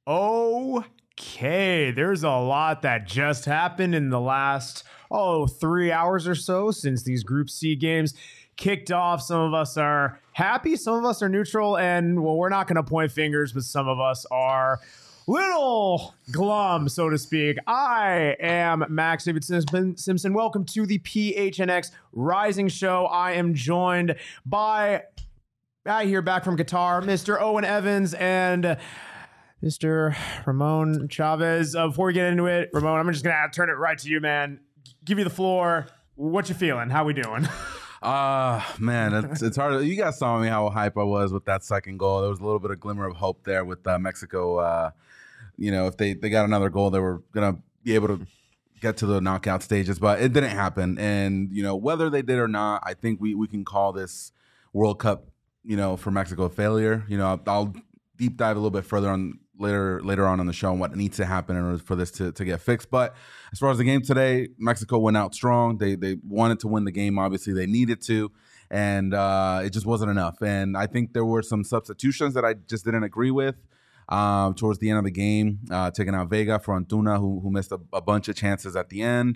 Okay, there's a lot that just happened in the last 3 hours or so since these Group C games kicked off. Some of us are happy, some of us are neutral, and well, we're not going to point fingers, but some of us are little glum, so to speak. I am Max David Simpson. Welcome to the PHNX Rising Show. I am joined by, I hear back from Qatar, Mr. Owen Evans and Mr. Ramon Chavez. Before we get into it, Ramon, I'm just going to turn it right to you, man. Give you the floor. What you feeling? How we doing? Man, it's hard. You guys saw me how hype I was with that second goal. There was a little bit of glimmer of hope there with Mexico. If they got another goal, they were going to be able to get to the knockout stages, but it didn't happen. And, whether they did or not, I think we can call this World Cup, for Mexico a failure. I'll deep dive a little bit further on later on in the show and what needs to happen in order for this to get fixed. But as far as the game today, Mexico went out strong. They wanted to win the game. Obviously, they needed to, and it just wasn't enough. And I think there were some substitutions that I just didn't agree with towards the end of the game, taking out Vega for Antuna, who missed a bunch of chances at the end.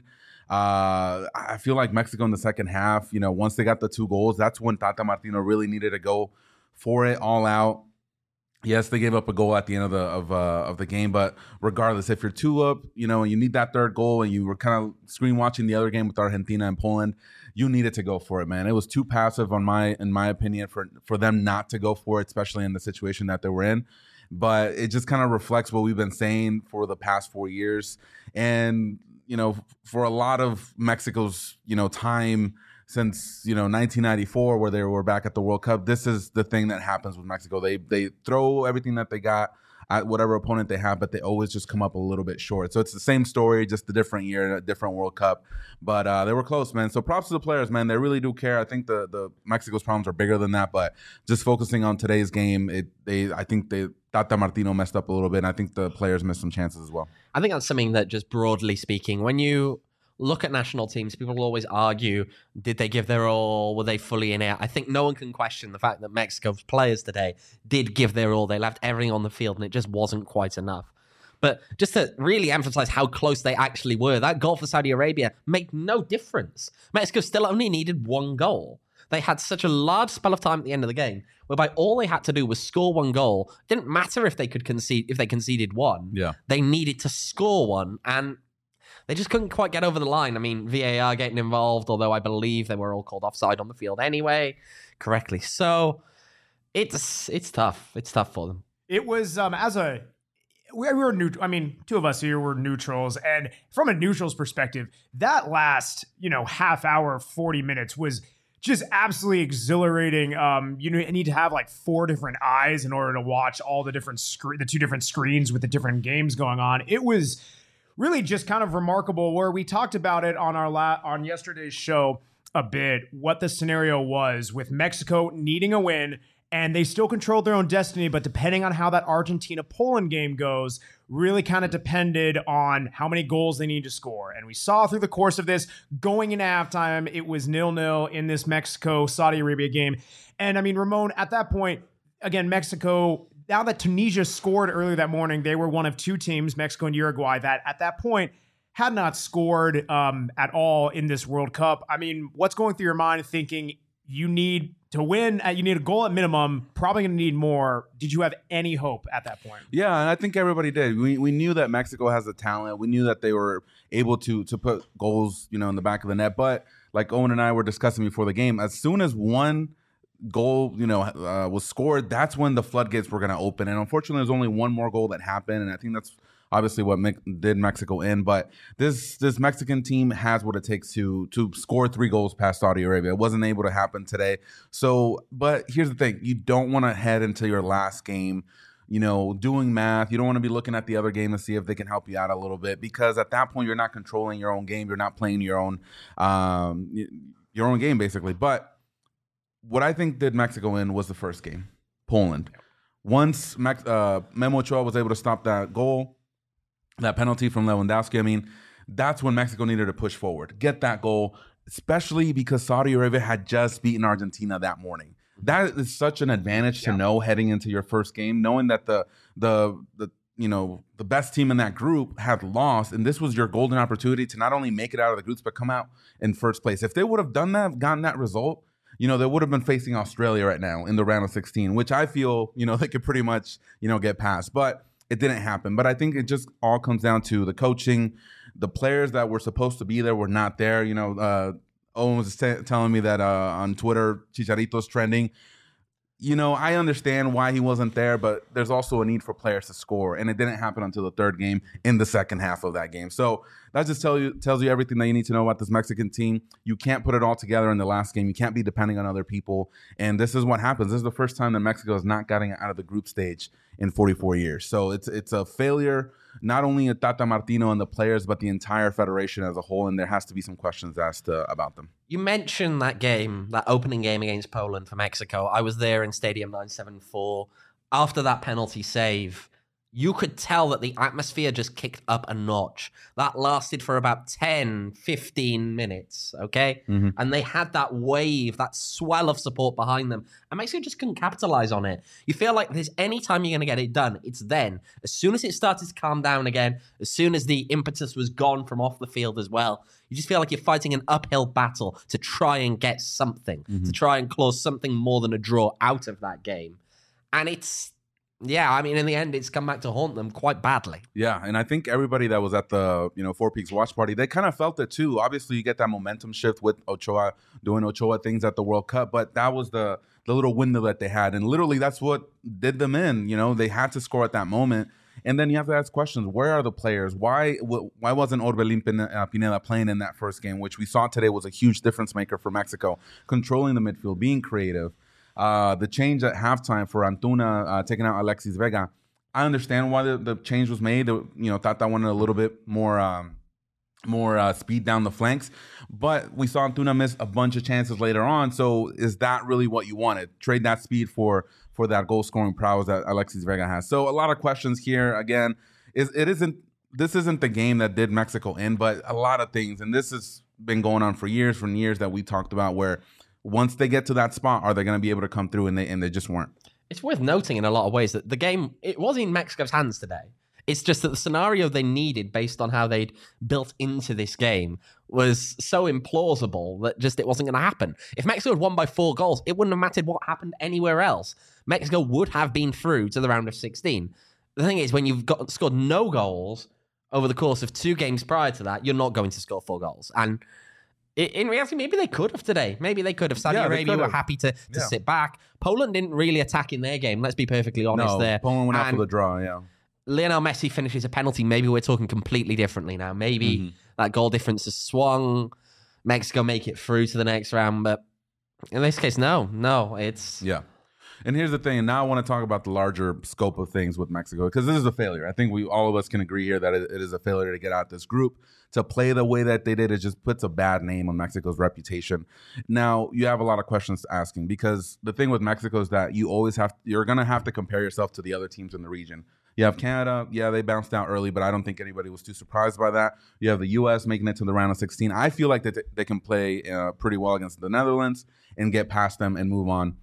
I feel like Mexico in the second half, once they got the 2 goals, that's when Tata Martino really needed to go for it all out. Yes, they gave up a goal at the end of the game, but regardless, if you're 2 up, and you need that 3rd goal, and you were kind of screen watching the other game with Argentina and Poland, you needed to go for it, man. It was too passive in my opinion for them not to go for it, especially in the situation that they were in. But it just kind of reflects what we've been saying for the past 4 years, and for a lot of Mexico's time since 1994, where they were back at the World Cup, this is the thing that happens with Mexico. They throw everything that they got at whatever opponent they have, but they always just come up a little bit short. So it's the same story, just a different year, a different World Cup. But they were close, man. So props to the players, man. They really do care. I think the Mexico's problems are bigger than that. But just focusing on today's game, I think Tata Martino messed up a little bit, and I think the players missed some chances as well. I think that's something that, just broadly speaking, when you look at national teams, people will always argue, did they give their all? Were they fully in it? I think no one can question the fact that Mexico's players today did give their all. They left everything on the field, and it just wasn't quite enough. But just to really emphasize how close they actually were, that goal for Saudi Arabia made no difference. Mexico still only needed 1 goal. They had such a large spell of time at the end of the game, whereby all they had to do was score 1 goal. It didn't matter if they conceded 1. Yeah. They needed to score 1, and they just couldn't quite get over the line. I mean, VAR getting involved, although I believe they were all called offside on the field anyway, correctly. So it's tough. It's tough for them. It was we were neutral. I mean, 2 of us here were neutrals, and from a neutral's perspective, that last half hour, 40 minutes was just absolutely exhilarating. You need to have like 4 different eyes in order to watch all the different the 2 different screens with the different games going on. It was really just kind of remarkable, where we talked about it on on yesterday's show a bit, what the scenario was with Mexico needing a win, and they still controlled their own destiny, but depending on how that Argentina-Poland game goes, really kind of depended on how many goals they need to score. And we saw through the course of this, going into halftime, it was 0-0 in this Mexico-Saudi Arabia game. And I mean, Ramon, at that point, again, Mexico, now that Tunisia scored earlier that morning, they were one of 2 teams, Mexico and Uruguay, that at that point had not scored at all in this World Cup. I mean, what's going through your mind thinking you need to win, you need a goal at minimum, probably going to need more? Did you have any hope at that point? Yeah, and I think everybody did. We knew that Mexico has the talent. We knew that they were able to put goals, in the back of the net. But like Owen and I were discussing before the game, as soon as one goal, was scored, that's when the floodgates were going to open. And unfortunately, there's only 1 more goal that happened, and I think that's obviously what did Mexico in. But this Mexican team has what it takes to score 3 goals past Saudi Arabia. It wasn't able to happen today. So, but here's the thing: you don't want to head into your last game, doing math. You don't want to be looking at the other game to see if they can help you out a little bit, because at that point, you're not controlling your own game. You're not playing your own game, basically. But what I think did Mexico in was the first game, Poland. Once Memo Ochoa was able to stop that goal, that penalty from Lewandowski, I mean, that's when Mexico needed to push forward, get that goal, especially because Saudi Arabia had just beaten Argentina that morning. That is such an advantage to know heading into your first game, knowing that the the best team in that group had lost, and this was your golden opportunity to not only make it out of the groups but come out in first place. If they would have done that, gotten that result, they would have been facing Australia right now in the round of 16, which I feel they could pretty much get past, but it didn't happen. But I think it just all comes down to the coaching. The players that were supposed to be there were not there. Owen was telling me that on Twitter, Chicharito's trending. I understand why he wasn't there, but there's also a need for players to score, and it didn't happen until the third game in the second half of that game. So that just tells you everything that you need to know about this Mexican team. You can't put it all together in the last game. You can't be depending on other people, and this is what happens. This is the first time that Mexico is not getting out of the group stage in 44 years. So it's a failure, not only at Tata Martino and the players, but the entire federation as a whole, and there has to be some questions asked about them. You mentioned that game, that opening game against Poland for Mexico. I was there in Stadium 974. After that penalty save, you could tell that the atmosphere just kicked up a notch. That lasted for about 10, 15 minutes, okay? Mm-hmm. And they had that wave, that swell of support behind them. And Mexico just couldn't capitalize on it. You feel like there's any time you're going to get it done, it's then. As soon as it started to calm down again, as soon as the impetus was gone from off the field as well, you just feel like you're fighting an uphill battle to try and get something, to try and claw something more than a draw out of that game. And in the end, it's come back to haunt them quite badly. Yeah, and I think everybody that was at the Four Peaks watch party, they kind of felt it too. Obviously, you get that momentum shift with Ochoa doing Ochoa things at the World Cup, but that was the little window that they had, and literally that's what did them in. They had to score at that moment, and then you have to ask questions: where are the players? Why wasn't Orbelín Pineda playing in that first game, which we saw today was a huge difference maker for Mexico, controlling the midfield, being creative. The change at halftime for Antuna taking out Alexis Vega, I understand why the change was made. Tata wanted a little bit more speed down the flanks, but we saw Antuna miss a bunch of chances later on. So is that really what you wanted? Trade that speed for that goal scoring prowess that Alexis Vega has. So a lot of questions here. Again, this isn't the game that did Mexico in, but a lot of things, and this has been going on for years that we talked about, where once they get to that spot, are they going to be able to come through? And they just weren't. It's worth noting in a lot of ways that the game, it was in Mexico's hands today. It's just that the scenario they needed based on how they'd built into this game was so implausible that just it wasn't going to happen. If Mexico had won by 4 goals, it wouldn't have mattered what happened anywhere else. Mexico would have been through to the round of 16. The thing is, when you've scored no goals over the course of 2 games prior to that, you're not going to score 4 goals. And in reality, maybe they could have today. Maybe they could have. Saudi Arabia were happy to sit back. Poland didn't really attack in their game. Let's be perfectly honest there. Poland went out for the draw, yeah. Lionel Messi finishes a penalty. Maybe we're talking completely differently now. Maybe that goal difference has swung. Mexico make it through to the next round. But in this case, no. It's... Yeah. And here's the thing, and now I want to talk about the larger scope of things with Mexico, because this is a failure. I think all of us can agree here that it is a failure to get out this group. To play the way that they did, it just puts a bad name on Mexico's reputation. Now, you have a lot of questions asking, because the thing with Mexico is that you're going to have to compare yourself to the other teams in the region. You have Canada, they bounced out early, but I don't think anybody was too surprised by that. You have the U.S. making it to the round of 16. I feel like that they can play pretty well against the Netherlands and get past them and move on.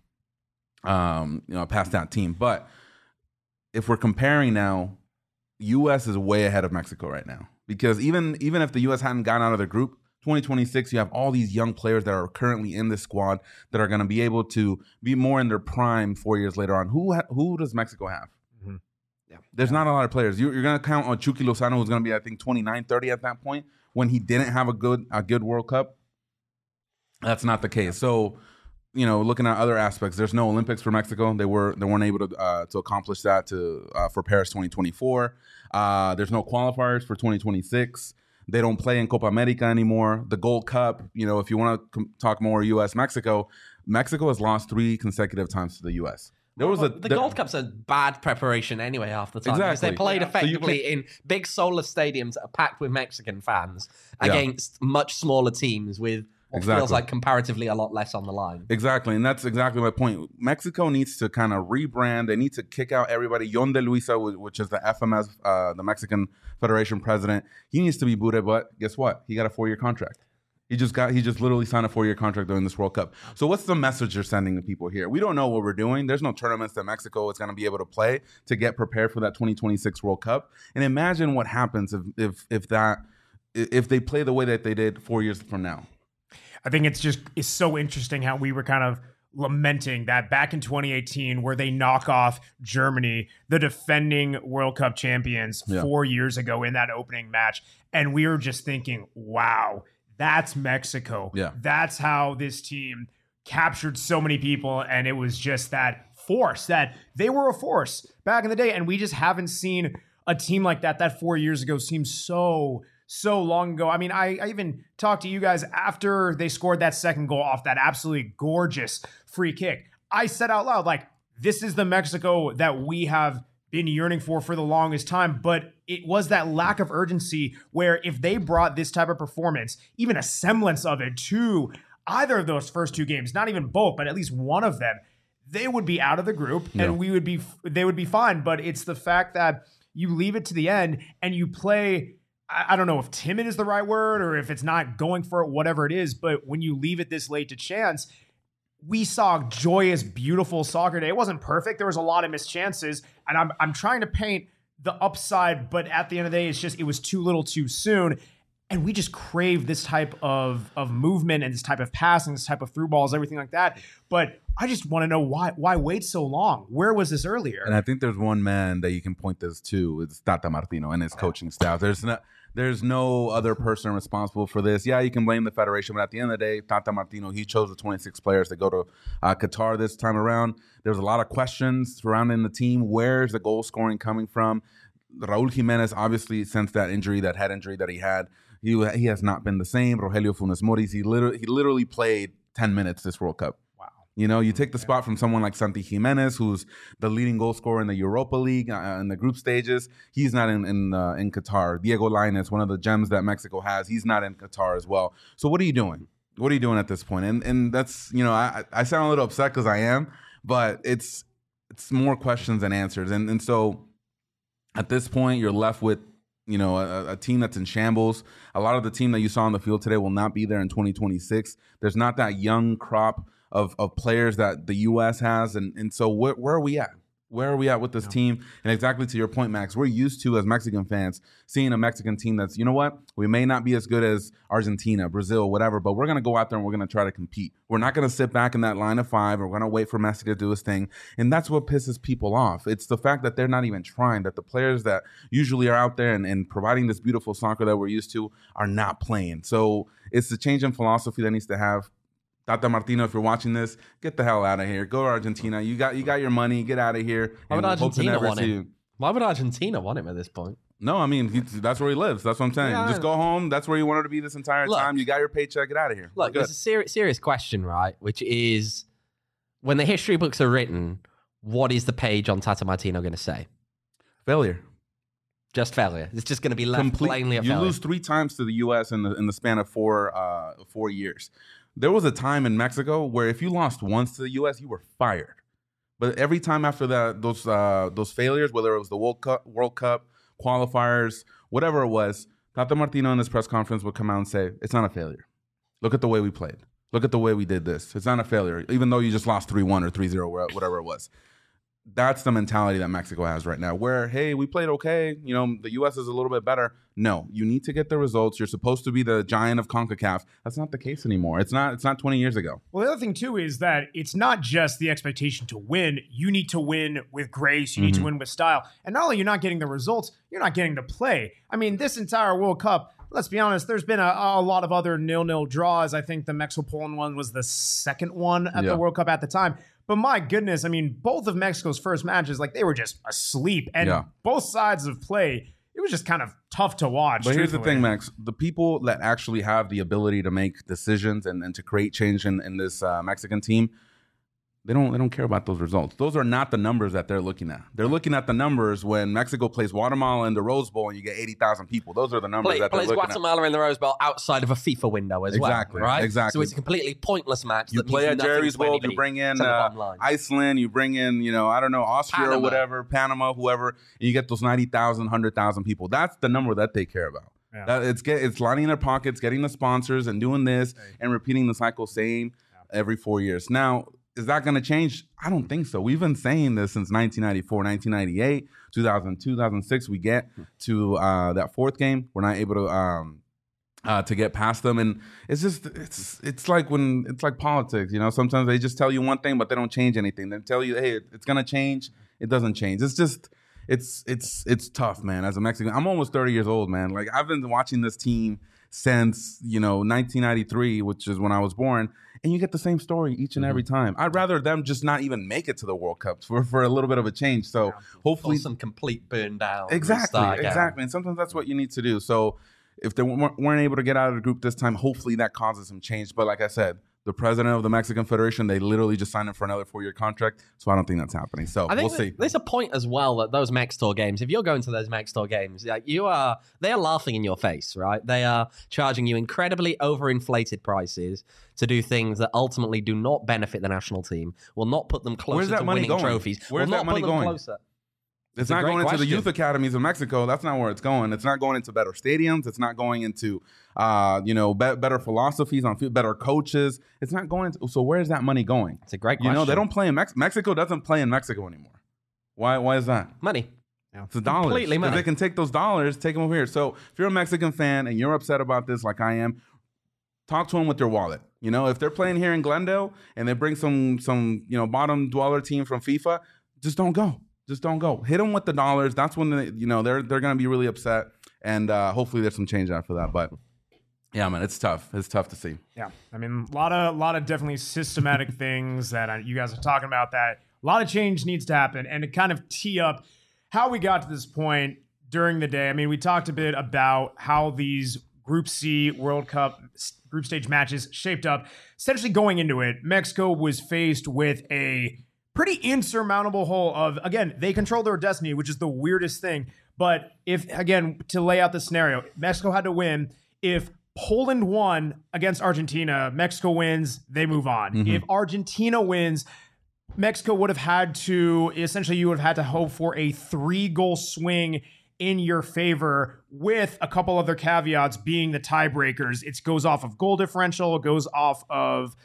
Past that team. But if we're comparing now, U.S. is way ahead of Mexico right now, because even if the U.S. hadn't gotten out of the group, 2026, you have all these young players that are currently in this squad that are going to be able to be more in their prime 4 years later on. Who does Mexico have? Mm-hmm. There's not a lot of players. You're going to count on Chucky Lozano, who's going to be, I think, 29, 30 at that point, when he didn't have a good World Cup. That's not the case. So, looking at other aspects, there's no Olympics for Mexico. They weren't able to accomplish that for Paris 2024. There's no qualifiers for 2026. They don't play in Copa America anymore. The Gold Cup, if you want to talk more U.S. Mexico has lost 3 consecutive times to the U.S. The Gold Cup's a bad preparation anyway half the time. Exactly. Because they played effectively in big solar stadiums that are packed with Mexican fans against much smaller teams with what feels like comparatively a lot less on the line. Exactly, and that's exactly my point. Mexico needs to kind of rebrand. They need to kick out everybody. Yon de Luisa, which is the FMS, the Mexican Federation president, he needs to be booted, but guess what? He got a 4-year contract. He just literally signed a 4-year contract during this World Cup. So what's the message you're sending to people here? We don't know what we're doing. There's no tournaments that Mexico is going to be able to play to get prepared for that 2026 World Cup. And imagine what happens if they play the way that they did 4 years from now. I think it's so interesting how we were kind of lamenting that back in 2018 where they knock off Germany, the defending World Cup champions, 4 years ago in that opening match. And we were just thinking, wow, that's Mexico. Yeah. That's how this team captured so many people. And it was just that force, that they were a force back in the day. And we just haven't seen a team like that 4 years ago seems so long ago. I mean, I even talked to you guys after they scored that second goal off that absolutely gorgeous free kick. I said out loud, like, this is the Mexico that we have been yearning for the longest time. But it was that lack of urgency where if they brought this type of performance, even a semblance of it to either of those first two games, not even both, but at least one of them, they would be out of the group and they would be fine. But it's the fact that you leave it to the end and you play, I don't know if timid is the right word or if it's not going for it, whatever it is. But when you leave it this late to chance, we saw joyous, beautiful soccer day. It wasn't perfect. There was a lot of missed chances. And I'm trying to paint the upside, but at the end of the day, it was too little too soon. And we just crave this type of movement and this type of passing, this type of through balls, everything like that. But I just want to know why wait so long? Where was this earlier? And I think there's one man that you can point this to. It's Tata Martino and his coaching staff. There's no other person responsible for this. Yeah, you can blame the federation, but at the end of the day, Tata Martino, he chose the 26 players to go to Qatar this time around. There's a lot of questions surrounding the team. Where's the goal scoring coming from? Raul Jimenez, obviously, since that injury, that head injury that he had, he has not been the same. Rogelio Funes Mori, he literally played 10 minutes this World Cup. You know, you take the spot from someone like Santi Jimenez, who's the leading goal scorer in the Europa League in the group stages. He's not in Qatar. Diego Lainez, one of the gems that Mexico has, he's not in Qatar as well. So what are you doing? What are you doing at this point? And that's, you know, I sound a little upset because I am, but it's more questions than answers. And so at this point, you're left with, you know, a team that's in shambles. A lot of the team that you saw on the field today will not be there in 2026. There's not that young crop of players that the U.S. has. And so where are we at? Where are we at with this team? And exactly to your point, Max, we're used to, as Mexican fans, seeing a Mexican team that's, you know what, we may not be as good as Argentina, Brazil, whatever, but we're going to go out there and we're going to try to compete. We're not going to sit back in that line of five. We're going to wait for Messi to do his thing. And that's what pisses people off. It's the fact that they're not even trying, that the players that usually are out there and providing this beautiful soccer that we're used to are not playing. So it's the change in philosophy that needs to have. Tata Martino, if you're watching this, get the hell out of here. Go to Argentina. You got your money. Get out of here. Why would Argentina want him? Why would Argentina want him at this point? No, I mean, that's where he lives. That's what I'm saying. Yeah, just go home. That's where you wanted to be this entire time. You got your paycheck. Get out of here. Look, there's a serious question, right? Which is, when the history books are written, what is the page on Tata Martino going to say? Failure. Just failure. It's just going to be left plainly a failure. You lose 3 times to the U.S. in the span of 4 years. There was a time in Mexico where if you lost once to the U.S., you were fired. But every time after that, those failures, whether it was the World Cup, qualifiers, whatever it was, Tata Martino in this press conference would come out and say, it's not a failure. Look at the way we played. Look at the way we did this. It's not a failure, even though you just lost 3-1 or 3-0, whatever it was. That's the mentality that Mexico has right now, where, hey, we played okay. You know, the U.S. is a little bit better. No, you need to get the results. You're supposed to be the giant of CONCACAF. That's not the case anymore. It's not 20 years ago. Well, the other thing, too, is that it's not just the expectation to win. You need to win with grace. You need to win with style. And not only you're not getting the results, you're not getting to play. I mean, this entire World Cup, let's be honest, there's been a lot of other 0-0 draws. I think the Mexico-Poland one was the second one at the World Cup at the time. But my goodness, I mean, both of Mexico's first matches, like, they were just asleep. And both sides of play, it was just kind of tough to watch. But here's the thing, Max. The people that actually have the ability to make decisions and to create change in this Mexican team, they don't care about those results. Those are not the numbers that they're looking at. They're looking at the numbers when Mexico plays Guatemala in the Rose Bowl and you get 80,000 people. Those are the numbers that they're looking at. Plays Guatemala in the Rose Bowl outside of a FIFA window as well, right? Exactly. So it's a completely pointless match. You play at Jerry's World, you bring in Iceland, you bring in, I don't know, Austria or whatever, Panama, whoever, and you get those 90,000, 100,000 people. That's the number that they care about. Yeah. It's lining their pockets, getting the sponsors, and doing this and repeating the cycle every 4 years. Now, is that going to change? I don't think so. We've been saying this since 1994, 1998, 2000, 2006. We get to that fourth game. We're not able to get past them. And it's like politics, you know, sometimes they just tell you one thing, but they don't change anything. They tell you, hey, it's going to change. It doesn't change. It's just, it's tough, man. As a Mexican, I'm almost 30 years old, man. Like, I've been watching this team since, 1993, which is when I was born. And you get the same story each and every time. I'd rather them just not even make it to the World Cup for a little bit of a change. So hopefully, some complete burn down. Exactly. And sometimes that's what you need to do. So if they weren't able to get out of the group this time, hopefully that causes some change. But like I said, the president of the Mexican Federation, they literally just signed him for another 4-year contract. So I don't think that's happening. So we'll see. There's a point as well that those Mextor games, if you're going to those Mextor games, they are laughing in your face, right? They are charging you incredibly overinflated prices to do things that ultimately do not benefit the national team, will not put them closer to winning trophies. Where's that money going? It's not going into the youth academies of Mexico. That's not where it's going. It's not going into better stadiums. It's not going into, better philosophies on field, better coaches. It's not going into. So where's that money going? It's a great question. They don't play in Mexico. Doesn't play in Mexico anymore. Why is that? Money. It's the dollars. Completely money. They can take those dollars, take them over here. So if you're a Mexican fan and you're upset about this, like I am, talk to them with your wallet. If they're playing here in Glendale and they bring some bottom dweller team from FIFA, just don't go. Just don't go. Hit them with the dollars. That's when they're going to be really upset, and hopefully there's some change after that. But yeah, man, it's tough. It's tough to see. Yeah, I mean, a lot of definitely systematic things that you guys are talking about. That a lot of change needs to happen, and to kind of tee up how we got to this point during the day. I mean, we talked a bit about how these Group C World Cup group stage matches shaped up. Essentially, going into it, Mexico was faced with a pretty insurmountable hole of, again, they control their destiny, which is the weirdest thing. But to lay out the scenario, Mexico had to win. If Poland won against Argentina, Mexico wins, they move on. Mm-hmm. If Argentina wins, Mexico would have had to, essentially you would have had to hope for a 3-goal swing in your favor, with a couple other caveats being the tiebreakers. It goes off of goal differential, it goes off of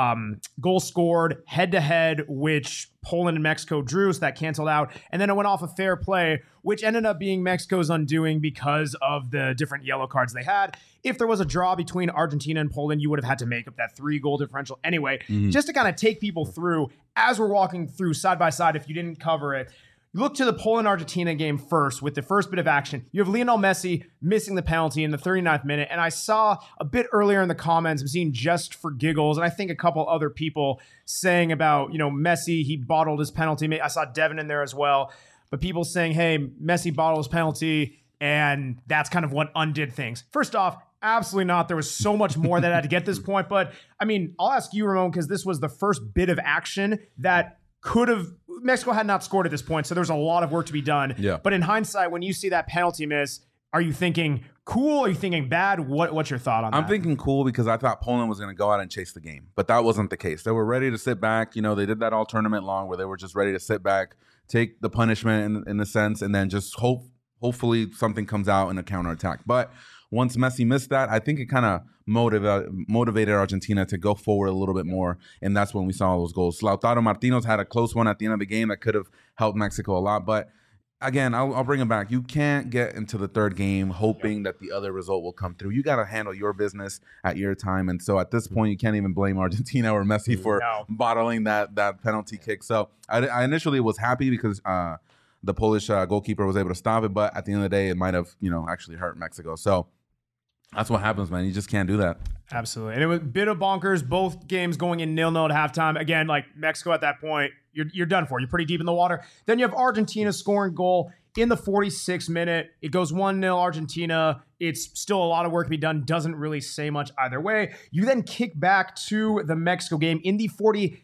goal scored head-to-head, which Poland and Mexico drew, so that canceled out. And then it went off of fair play, which ended up being Mexico's undoing because of the different yellow cards they had. If there was a draw between Argentina and Poland, you would have had to make up that 3-goal differential anyway. Just to kind of take people through, as we're walking through side by side, if you didn't cover it, look to the Poland-Argentina game first with the first bit of action. You have Lionel Messi missing the penalty in the 39th minute. And I saw a bit earlier in the comments, I'm seeing Just for Giggles, and I think a couple other people saying about, Messi, he bottled his penalty. I saw Devin in there as well. But people saying, hey, Messi bottled his penalty, and that's kind of what undid things. First off, absolutely not. There was so much more that had to get this point. But, I mean, I'll ask you, Ramon, because this was the first bit of action that Mexico had not scored at this point, so there's a lot of work to be done. Yeah. But in hindsight, when you see that penalty miss, are you thinking cool? Are you thinking bad? What's your thought on that? I'm thinking cool because I thought Poland was going to go out and chase the game, but that wasn't the case. They were ready to sit back. They did that all tournament long where they were just ready to sit back, take the punishment in a sense, and then just hopefully something comes out in a counterattack. But once Messi missed that, I think it kind of motivated Argentina to go forward a little bit more, and that's when we saw those goals. Lautaro Martinez had a close one at the end of the game that could have helped Mexico a lot, but again, I'll bring it back. You can't get into the third game hoping that the other result will come through. You got to handle your business at your time, and so at this point, you can't even blame Argentina or Messi for bottling that penalty kick. So I initially was happy because the Polish goalkeeper was able to stop it, but at the end of the day, it might have actually hurt Mexico. So that's what happens, man. You just can't do that. Absolutely. And it was a bit of bonkers. Both games going in 0-0 at halftime. Again, like Mexico at that point, you're done for. You're pretty deep in the water. Then you have Argentina scoring goal in the 46th minute. It goes 1-0 Argentina. It's still a lot of work to be done. Doesn't really say much either way. You then kick back to the Mexico game in the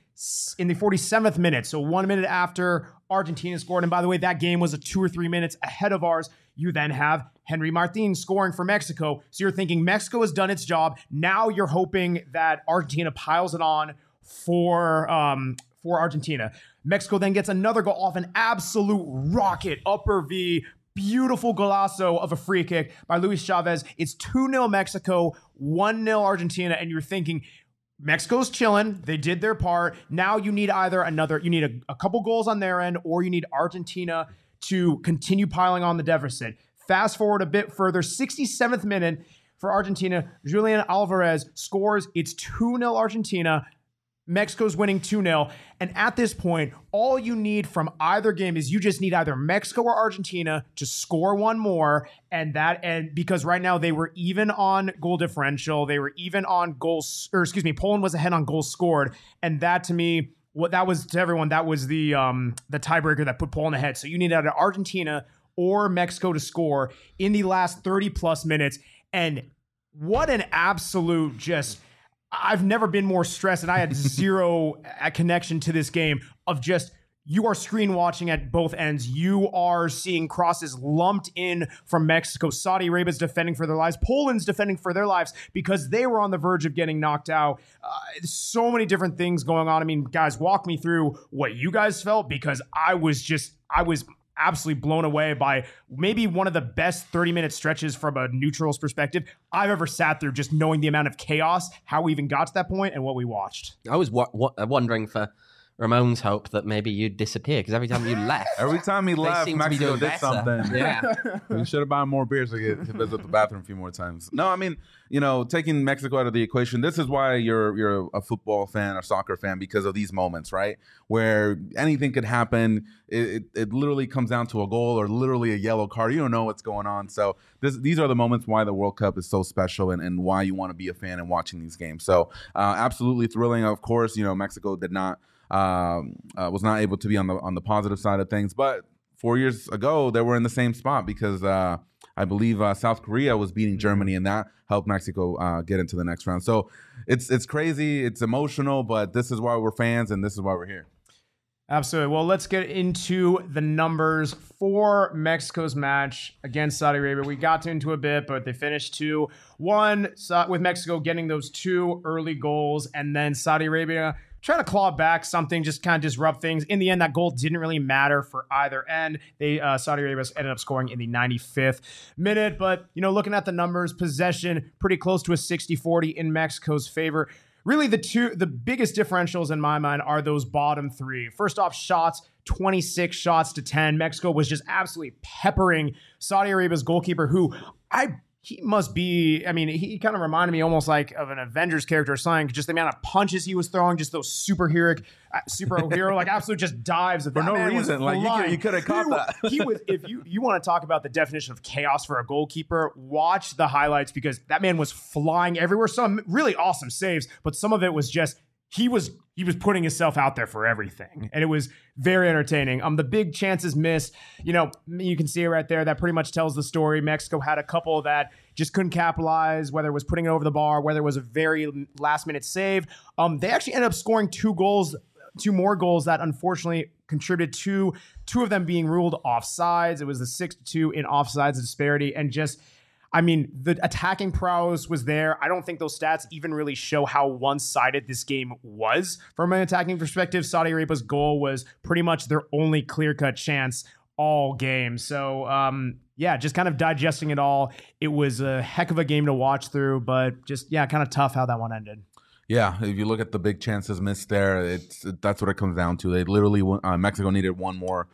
47th minute. So 1 minute after Argentina scored. And by the way, that game was 2 or 3 minutes ahead of ours. You then have Henry Martin scoring for Mexico. So you're thinking Mexico has done its job. Now you're hoping that Argentina piles it on for Argentina. Mexico then gets another goal off an absolute rocket, upper V, beautiful golazo of a free kick by Luis Chavez. It's 2-0 Mexico, 1-0 Argentina, and you're thinking, Mexico's chilling. They did their part. Now you need you need a couple goals on their end, or you need Argentina to continue piling on the deficit. Fast forward a bit further, 67th minute for Argentina. Julian Alvarez scores. It's 2-0 Argentina. Mexico's winning 2-0. And at this point, all you need from either game is you just need either Mexico or Argentina to score one more. And because right now they were even on goal differential. They were even on goals, Poland was ahead on goals scored. And that to me, that was to everyone, that was the tiebreaker that put Poland ahead. So you need either Argentina or Mexico to score in the last 30 plus minutes. And what an absolute I've never been more stressed, and I had zero connection to this game of just, you are screen watching at both ends. You are seeing crosses lumped in from Mexico. Saudi Arabia's defending for their lives. Poland's defending for their lives because they were on the verge of getting knocked out. So many different things going on. I mean, guys, walk me through what you guys felt, because I was absolutely blown away by maybe one of the best 30-minute stretches from a neutral's perspective I've ever sat through, just knowing the amount of chaos, how we even got to that point, and what we watched. I was wondering for Ramon's hope that maybe you'd disappear, because every time you left, Mexico did something. Yeah. We should have bought more beers to visit the bathroom a few more times. No, I mean, taking Mexico out of the equation, this is why you're a football fan or soccer fan, because of these moments, right? Where anything could happen. It literally comes down to a goal or literally a yellow card. You don't know what's going on. So these are the moments why the World Cup is so special and why you want to be a fan and watching these games. So absolutely thrilling. Of course, Mexico did not was not able to be on the positive side of things, but 4 years ago they were in the same spot because I believe South Korea was beating Germany, and that helped Mexico get into the next round. So it's crazy, it's emotional, but this is why we're fans and this is why we're here. Absolutely. Well, let's get into the numbers for Mexico's match against Saudi Arabia. We got into a bit, but they finished 2-1 with Mexico getting those 2 early goals, and then Saudi Arabia trying to claw back something, just kind of disrupt things. In the end, that goal didn't really matter for either end. Saudi Arabia ended up scoring in the 95th minute. But, looking at the numbers, possession pretty close to a 60-40 in Mexico's favor. Really, the biggest differentials in my mind are those bottom 3. First off, shots, 26 shots to 10. Mexico was just absolutely peppering Saudi Arabia's goalkeeper, who he must be, he kind of reminded me almost like of an Avengers character or something. Just the amount of punches he was throwing, just those superhero, like absolute just dives. For no reason. Like you could have caught that. He was, if you want to talk about the definition of chaos for a goalkeeper, watch the highlights, because that man was flying everywhere. Some really awesome saves, but some of it was just, he was putting himself out there for everything, and it was very entertaining. The big chances missed, you can see it right there. That pretty much tells the story. Mexico had a couple that just couldn't capitalize, whether it was putting it over the bar, whether it was a very last-minute save. They actually ended up scoring 2 more goals that unfortunately contributed to 2 of them being ruled offsides. It was the 6-2 in offsides disparity, and just, the attacking prowess was there. I don't think those stats even really show how one-sided this game was from an attacking perspective. Saudi Arabia's goal was pretty much their only clear-cut chance all game. So, just kind of digesting it all. It was a heck of a game to watch through, but just, kind of tough how that one ended. Yeah, if you look at the big chances missed there, that's what it comes down to. They literally, Mexico needed one more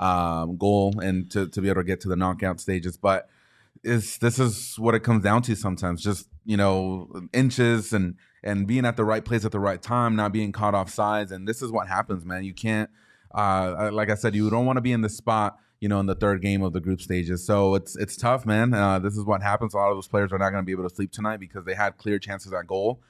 goal and to be able to get to the knockout stages, but this is what it comes down to sometimes. Just, inches and being at the right place at the right time, not being caught off sides. And this is what happens, man. You can't, like I said, you don't want to be in this spot, in the third game of the group stages. So it's tough, man. This is what happens. A lot of those players are not going to be able to sleep tonight because they had clear chances at goal.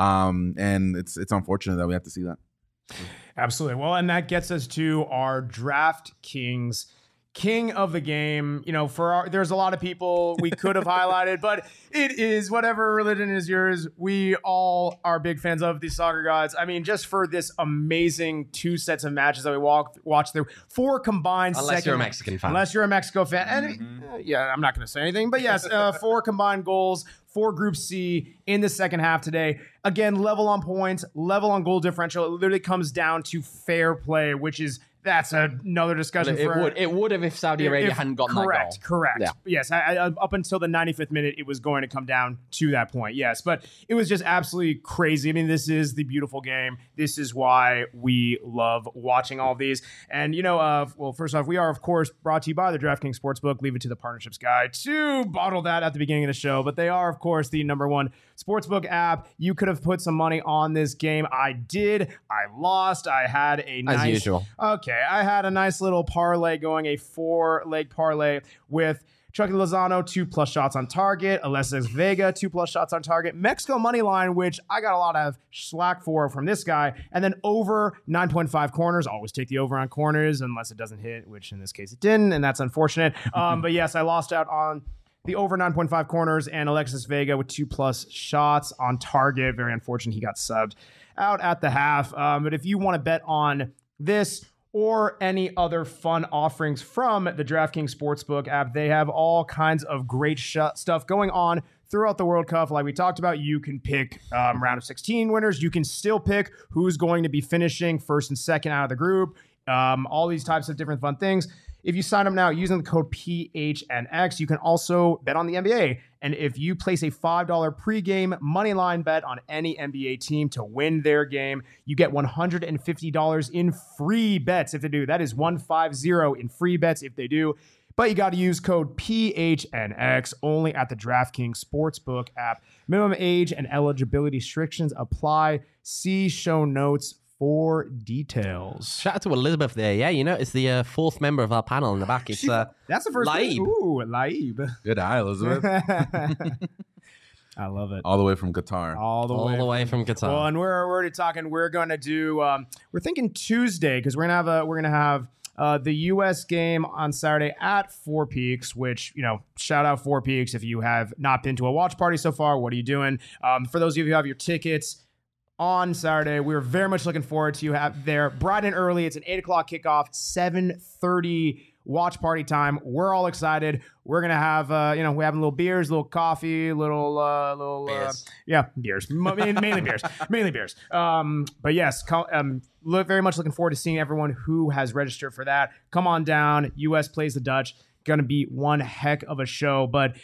And it's unfortunate that we have to see that. Absolutely. Well, and that gets us to our DraftKings king of the game. There's a lot of people we could have highlighted, but it is whatever religion is yours. We all are big fans of these soccer gods. Just for this amazing 2 sets of matches that we watched through, 4 combined. Unless you're a Mexican fan. Unless you're a Mexico fan. And I'm not going to say anything, but yes, 4 combined goals for Group C in the second half today. Again, level on points, level on goal differential. It literally comes down to fair play, which is That's another discussion. It would have if Saudi Arabia hadn't gotten that goal. Correct. Yeah. Yes. Up until the 95th minute, it was going to come down to that point. Yes, but it was just absolutely crazy. I mean, this is the beautiful game. This is why we love watching all of these. And well, first off, we are of course brought to you by the DraftKings Sportsbook. Leave it to the partnerships guy to bottle that at the beginning of the show. But they are of course the #1 sportsbook app. You could have put some money on this game. I did. I lost. I had a nice, as usual. Okay. I had a nice little parlay going, a 4-leg parlay with Chucky Lozano, 2+ shots on target, Alexis Vega, 2+ shots on target, Mexico money line, which I got a lot of slack for from this guy, and then over 9.5 corners. Always take the over on corners unless it doesn't hit, which in this case it didn't, and that's unfortunate. But yes, I lost out on the over 9.5 corners and Alexis Vega with 2+ shots on target. Very unfortunate he got subbed out at the half. But if you want to bet on this or any other fun offerings from the DraftKings Sportsbook app, they have all kinds of great stuff going on throughout the World Cup. Like we talked about, you can pick round of 16 winners. You can still pick who's going to be finishing first and second out of the group. All these types of different fun things. If you sign up now using the code PHNX, you can also bet on the NBA. And if you place a $5 pregame moneyline bet on any NBA team to win their game, you get $150 in free bets if they do. That is 150 in free bets if they do. But you got to use code PHNX only at the DraftKings Sportsbook app. Minimum age and eligibility restrictions apply. See show notes for details. Shout out to Elizabeth there. Yeah, it's the fourth member of our panel in the back. It's that's the first Laib. Ooh, Laib. Good eye, Elizabeth. I love it. All the way from Qatar. All the way from Qatar. Well, and we're already talking. We're going to do. We're thinking Tuesday because we're gonna have the U.S. game on Saturday at Four Peaks. Which shout out Four Peaks if you have not been to a watch party so far. What are you doing? For those of you who have your tickets on Saturday, we're very much looking forward to you have there bright and early. It's an 8:00 kickoff, 7:30 watch party time. We're all excited. We're gonna have we're having little beers, little coffee, little beers. Beers, mainly beers. But yes, very much looking forward to seeing everyone who has registered for that. Come on down. U.S. plays the Dutch. Gonna be one heck of a show, but.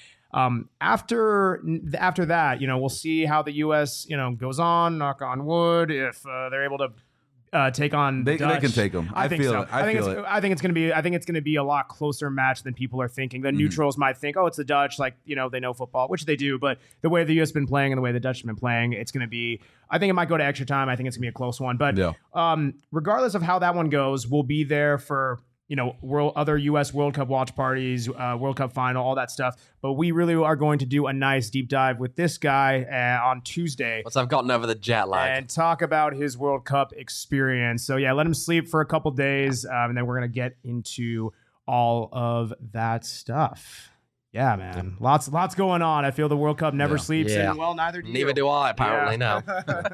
After that, we'll see how the U.S. goes on. Knock on wood. If they're able to take on they Dutch, can take them. I think so. I think it's gonna be a lot closer match than people are thinking. The neutrals might think, oh, it's the Dutch, they know football, which they do. But the way the U.S. has been playing and the way the Dutch have been playing, it's gonna be. I think it might go to extra time. I think it's gonna be a close one. But regardless of how that one goes, we'll be there for. Other U.S. World Cup watch parties, World Cup final, all that stuff. But we really are going to do a nice deep dive with this guy on Tuesday. Once I've gotten over the jet lag. And talk about his World Cup experience. So, yeah, let him sleep for a couple days, and then we're going to get into all of that stuff. Yeah, man. Lots going on. I feel the World Cup never sleeps, and, well, neither do you. Neither do I, apparently, no.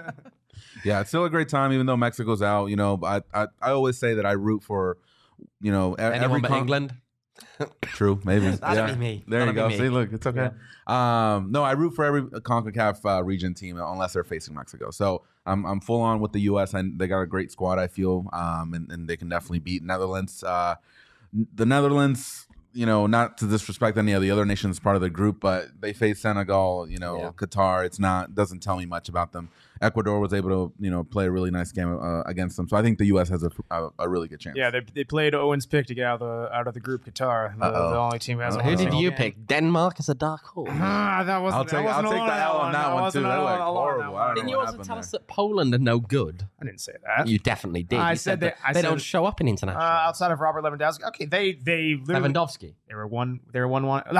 Yeah, it's still a great time, even though Mexico's out. I always say that I root for anyone but England. True, maybe. That'd be me. There you go. See, look, it's okay. Yeah. No, I root for every CONCACAF region team unless they're facing Mexico. So I'm full on with the U.S. and they got a great squad. I feel, and they can definitely beat Netherlands. The Netherlands, not to disrespect any of the other nations part of the group, but they face Senegal. Qatar. Doesn't tell me much about them. Ecuador was able to, play a really nice game against them. So I think the U.S. has a really good chance. Yeah, they played Owen's pick to get out of the group. Qatar, the only team who hasn't. Who did you pick? Denmark as a dark horse. I'll take that L on that one too. That was horrible. Didn't you also tell us that Poland are no good? I didn't say that. You definitely did. I said that they don't show up in international. Outside of Robert Lewandowski. Okay, they literally. Lewandowski. They were 1-1.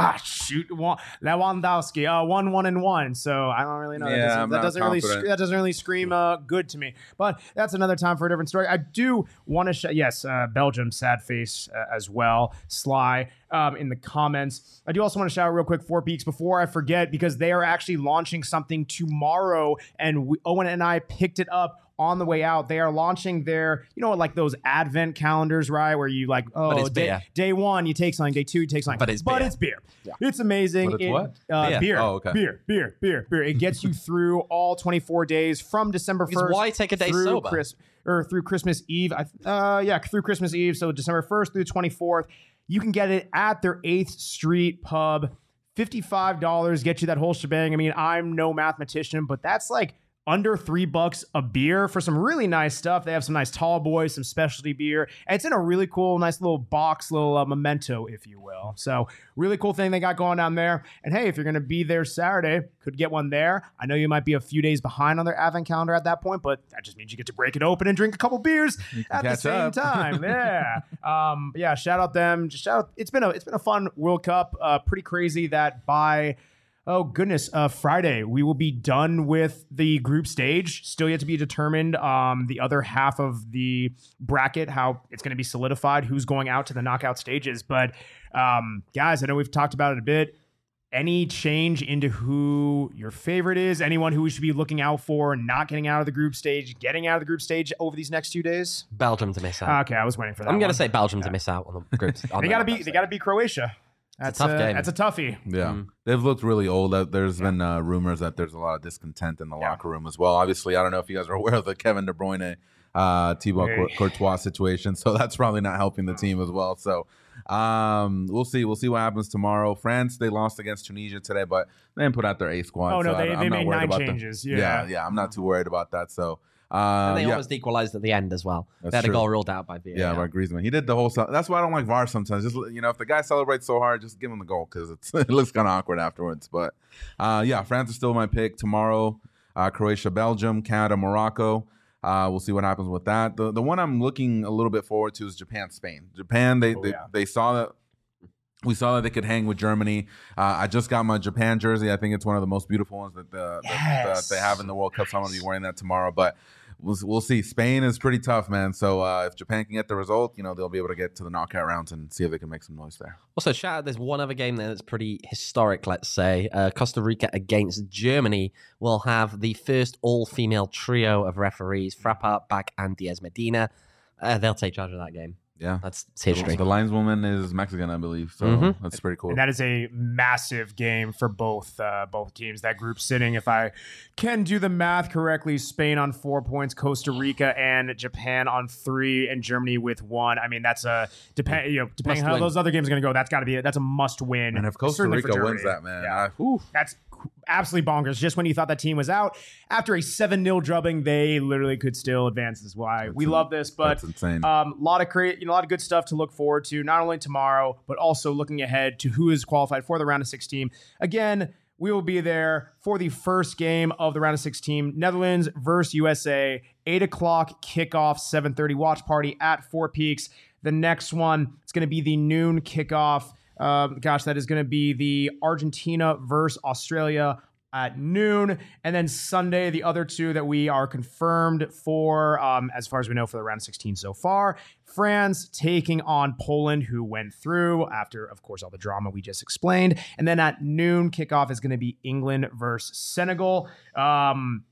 Lewandowski. 1-1. So I don't really know. Yeah, that doesn't really scream good to me. But that's another time for a different story. I do want to Belgium, sad face as well. Sly in the comments. I do also want to shout out real quick 4 Peaks before I forget, because they are actually launching something tomorrow, and Owen and I picked it up on the way out. They are launching their, like those advent calendars, right? Where you day 1, you take something, day 2, you take something. But it's beer. Yeah. It's amazing. But it's what? Beer. Oh, okay. Beer. It gets you through all 24 days from December 1st. Why take a day through sober? or through Christmas Eve. Through Christmas Eve. So December 1st through the 24th. You can get it at their 8th Street pub. $55 get you that whole shebang. I mean, I'm no mathematician, but that's like under $3 a beer for some really nice stuff. They have some nice tall boys, some specialty beer, and it's in a really cool, nice little box, little memento, if you will. So really cool thing they got going down there. And hey, if you're going to be there Saturday, could get one there. I know you might be a few days behind on their advent calendar at that point, but that just means you get to break it open and drink a couple beers at the same time. Yeah. Shout out them. It's been a fun World Cup. Pretty crazy that by Friday, we will be done with the group stage. Still yet to be determined. The other half of the bracket, how it's going to be solidified, who's going out to the knockout stages. But guys, I know we've talked about it a bit. Any change into who your favorite is? Anyone who we should be looking out for not getting out of the group stage, getting out of the group stage over these next 2 days? Belgium to miss out. Okay, I was waiting for that. I'm going to say Belgium to miss out on the groups. They got to beat Croatia. That's a tough game. That's a toughie. Yeah. They've looked really old. There's been rumors that there's a lot of discontent in the locker room as well. Obviously, I don't know if you guys are aware of the Kevin De Bruyne, Thibaut Courtois situation, so that's probably not helping the team as well. So we'll see. We'll see what happens tomorrow. France, they lost against Tunisia today, but they didn't put out their A squad. Oh, no, so they made 9 changes. Yeah, I'm not too worried about that. So and they almost equalized at the end as well. They had a goal ruled out by VAR. Yeah, by Griezmann. He did the whole. That's why I don't like VAR sometimes. Just if the guy celebrates so hard, just give him the goal because it looks kind of awkward afterwards. But France is still my pick tomorrow. Croatia, Belgium, Canada, Morocco. We'll see what happens with that. The one I'm looking a little bit forward to is Japan, Spain. Japan, they saw that. We saw that they could hang with Germany. I just got my Japan jersey. I think it's one of the most beautiful ones that they have in the World Cup. So I'm going to be wearing that tomorrow. But we'll see. Spain is pretty tough, man. So if Japan can get the result, they'll be able to get to the knockout rounds and see if they can make some noise there. Also, shout out, there's one other game there that's pretty historic, let's say. Costa Rica against Germany will have the first all-female trio of referees, Frappart, Bach, and Diaz Medina. They'll take charge of that game. Yeah, that's history. The lineswoman is Mexican, I believe. So that's pretty cool. And that is a massive game for both teams. That group sitting, if I can do the math correctly, Spain on 4 points, Costa Rica and Japan on 3, and Germany with 1. I mean, that's depending how those other games are going to go. That's a must win. And if Costa Rica wins that, man, that's absolutely bonkers. Just when you thought that team was out, after a 7-0 drubbing, they literally could still advance. That's why we love this. But that's insane. A lot of good stuff to look forward to, not only tomorrow, but also looking ahead to who is qualified for the round of 16. Again, we will be there for the first game of the round of 16, Netherlands versus USA, 8 o'clock kickoff, 7:30 watch party at Four Peaks. The next one, it's going to be the noon kickoff. That is going to be the Argentina versus Australia at noon. And then Sunday, the other two that we are confirmed for, as far as we know, for the round of 16 so far. France taking on Poland, who went through after, of course, all the drama we just explained. And then at noon, kickoff is going to be England versus Senegal. I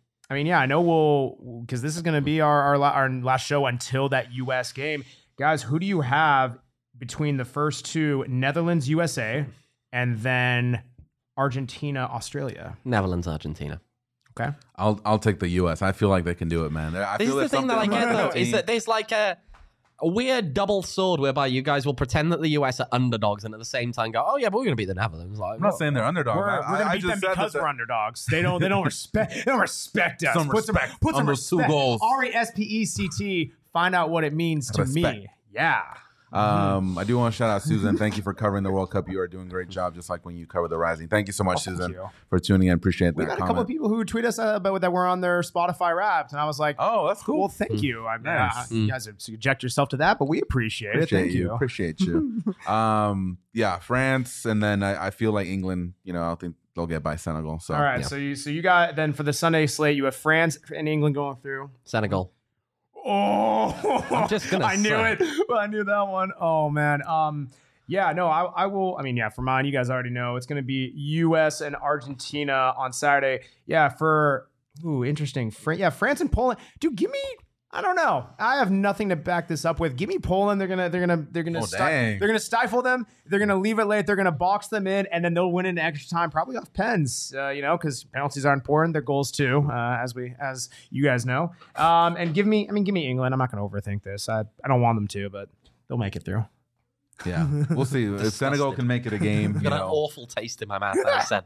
know because this is going to be our last show until that U.S. game. Guys, who do you have between the first two, Netherlands, USA, and then Argentina, Australia? Netherlands, Argentina. Okay. I'll take the U.S. I feel like they can do it, man. This is the thing that I get, though, is that there's like a weird double sword whereby you guys will pretend that the US are underdogs and at the same time go, oh yeah, but we're going to beat the Netherlands. Like, I'm not saying they're underdogs. We're going to beat them because we're underdogs. They don't respect us. Some respect. Put some respect. 2 goals. RESPECT. Find out what it means to me. Yeah. I do want to shout out Susan. Thank you for covering the World Cup. You are doing a great job, just like when you cover the Rising. Thank you so much, Susan, for tuning in. Appreciate that. We got a couple of people who tweet us about that were on their Spotify Wrapped, and I was like, "Oh, that's cool. Well, thank you. I mean, you guys subject yourself to that, but we appreciate it. Thank you. Appreciate you. France, and then I feel like England. I think they'll get by Senegal. So all right. Yeah. So you got then for the Sunday slate, you have France and England going through. Senegal. Oh, I'm just gonna I knew it. I knew that one. Oh man. I will. I mean, for mine, you guys already know it's going to be U.S. and Argentina on Saturday. Yeah, interesting. France and Poland. Dude, give me. I don't know. I have nothing to back this up with. Give me Poland. They're gonna stifle them. They're gonna leave it late. They're gonna box them in, and then they'll win in extra time, probably off pens. Because penalties are important. They're goals too, as you guys know. And give me England. I'm not gonna overthink this. I don't want them to, but they'll make it through. Yeah, we'll see. If Senegal can make it a game, I've got an awful taste in my mouth that I said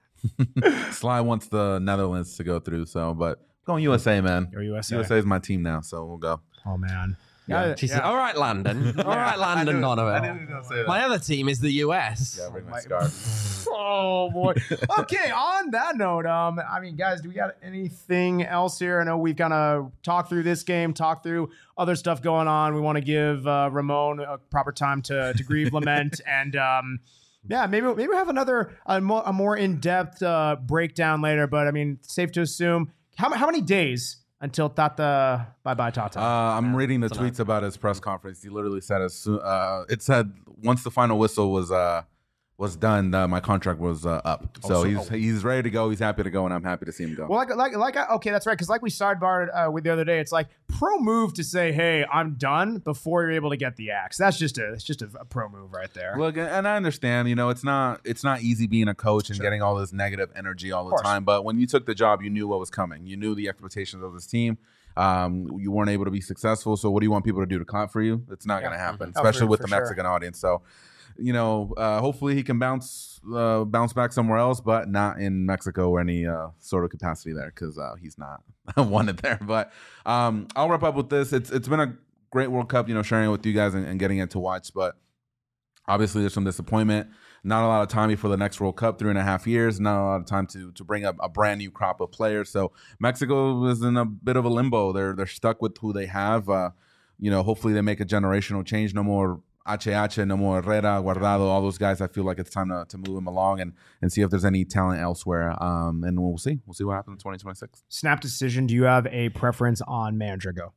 that. Sly wants the Netherlands to go through, but going USA, man. You're USA. USA is my team now, so we'll go. Oh man. Yeah. All right, Landon. All right, Landon Donovan. I knew he was gonna say that. My other team is the US. Yeah, bring my scarf. Oh boy. Okay, on that note, guys, do we got anything else here? I know we've kind of talked through this game, talked through other stuff going on. We want to give Ramon a proper time to grieve, lament, and maybe we have a more in-depth breakdown later. But I mean, safe to assume how many days until Tata bye Tata? I'm reading the tweets about his press conference. He literally said it said once the final whistle was done, my contract was up. So he's ready to go. He's happy to go, and I'm happy to see him go. Well, okay, that's right. Because like we sidebarred with the other day, it's like pro move to say, "Hey, I'm done" before you're able to get the axe. That's just a pro move right there. Look, and I understand. It's not easy being a coach and getting all this negative energy all the time. But when you took the job, you knew what was coming. You knew the expectations of this team. You weren't able to be successful. So what do you want people to do, to clap for you? It's not going to happen, especially with the Mexican audience. So. Hopefully he can bounce back somewhere else, but not in Mexico or any sort of capacity there, because he's not wanted there. But I'll wrap up with this. It's been a great World Cup, sharing it with you guys and getting it to watch. But obviously there's some disappointment. Not a lot of time before the next World Cup, 3.5 years. Not a lot of time to bring up a brand new crop of players. So Mexico is in a bit of a limbo. They're stuck with who they have. Hopefully they make a generational change. No more HH, no more Herrera, Guardado, all those guys. I feel like it's time to move them along and see if there's any talent elsewhere. And we'll see. We'll see what happens in 2026. Snap decision. Do you have a preference on manager go?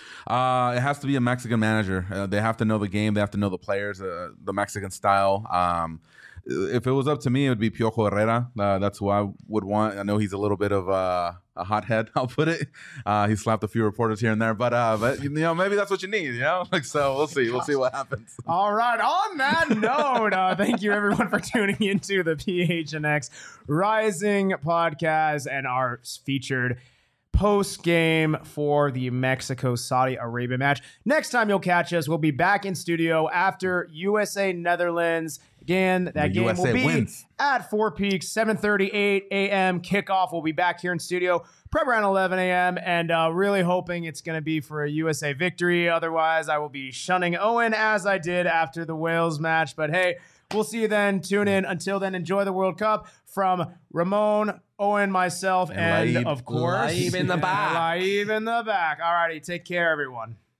It has to be a Mexican manager. They have to know the game. They have to know the players, the Mexican style. If it was up to me, it would be Piojo Herrera. That's who I would want. I know he's a little bit of a hothead, I'll put it. He slapped a few reporters here and there, but maybe that's what you need, so we'll see. We'll see what happens. All right. On that note, thank you everyone for tuning into the PHNX Rising podcast and our featured post game for the Mexico-Saudi Arabia match. Next time you'll catch us, we'll be back in studio after USA-Netherlands. Again, that game will be at Four Peaks, 7:38 a.m. kickoff. We'll be back here in studio probably around 11 a.m. and really hoping it's going to be for a USA victory. Otherwise, I will be shunning Owen as I did after the Wales match. But hey, we'll see you then. Tune in. Until then, enjoy the World Cup. From Ramon, Owen, myself, and of course, Laib in the back. Laib in the back. All righty. Take care, everyone.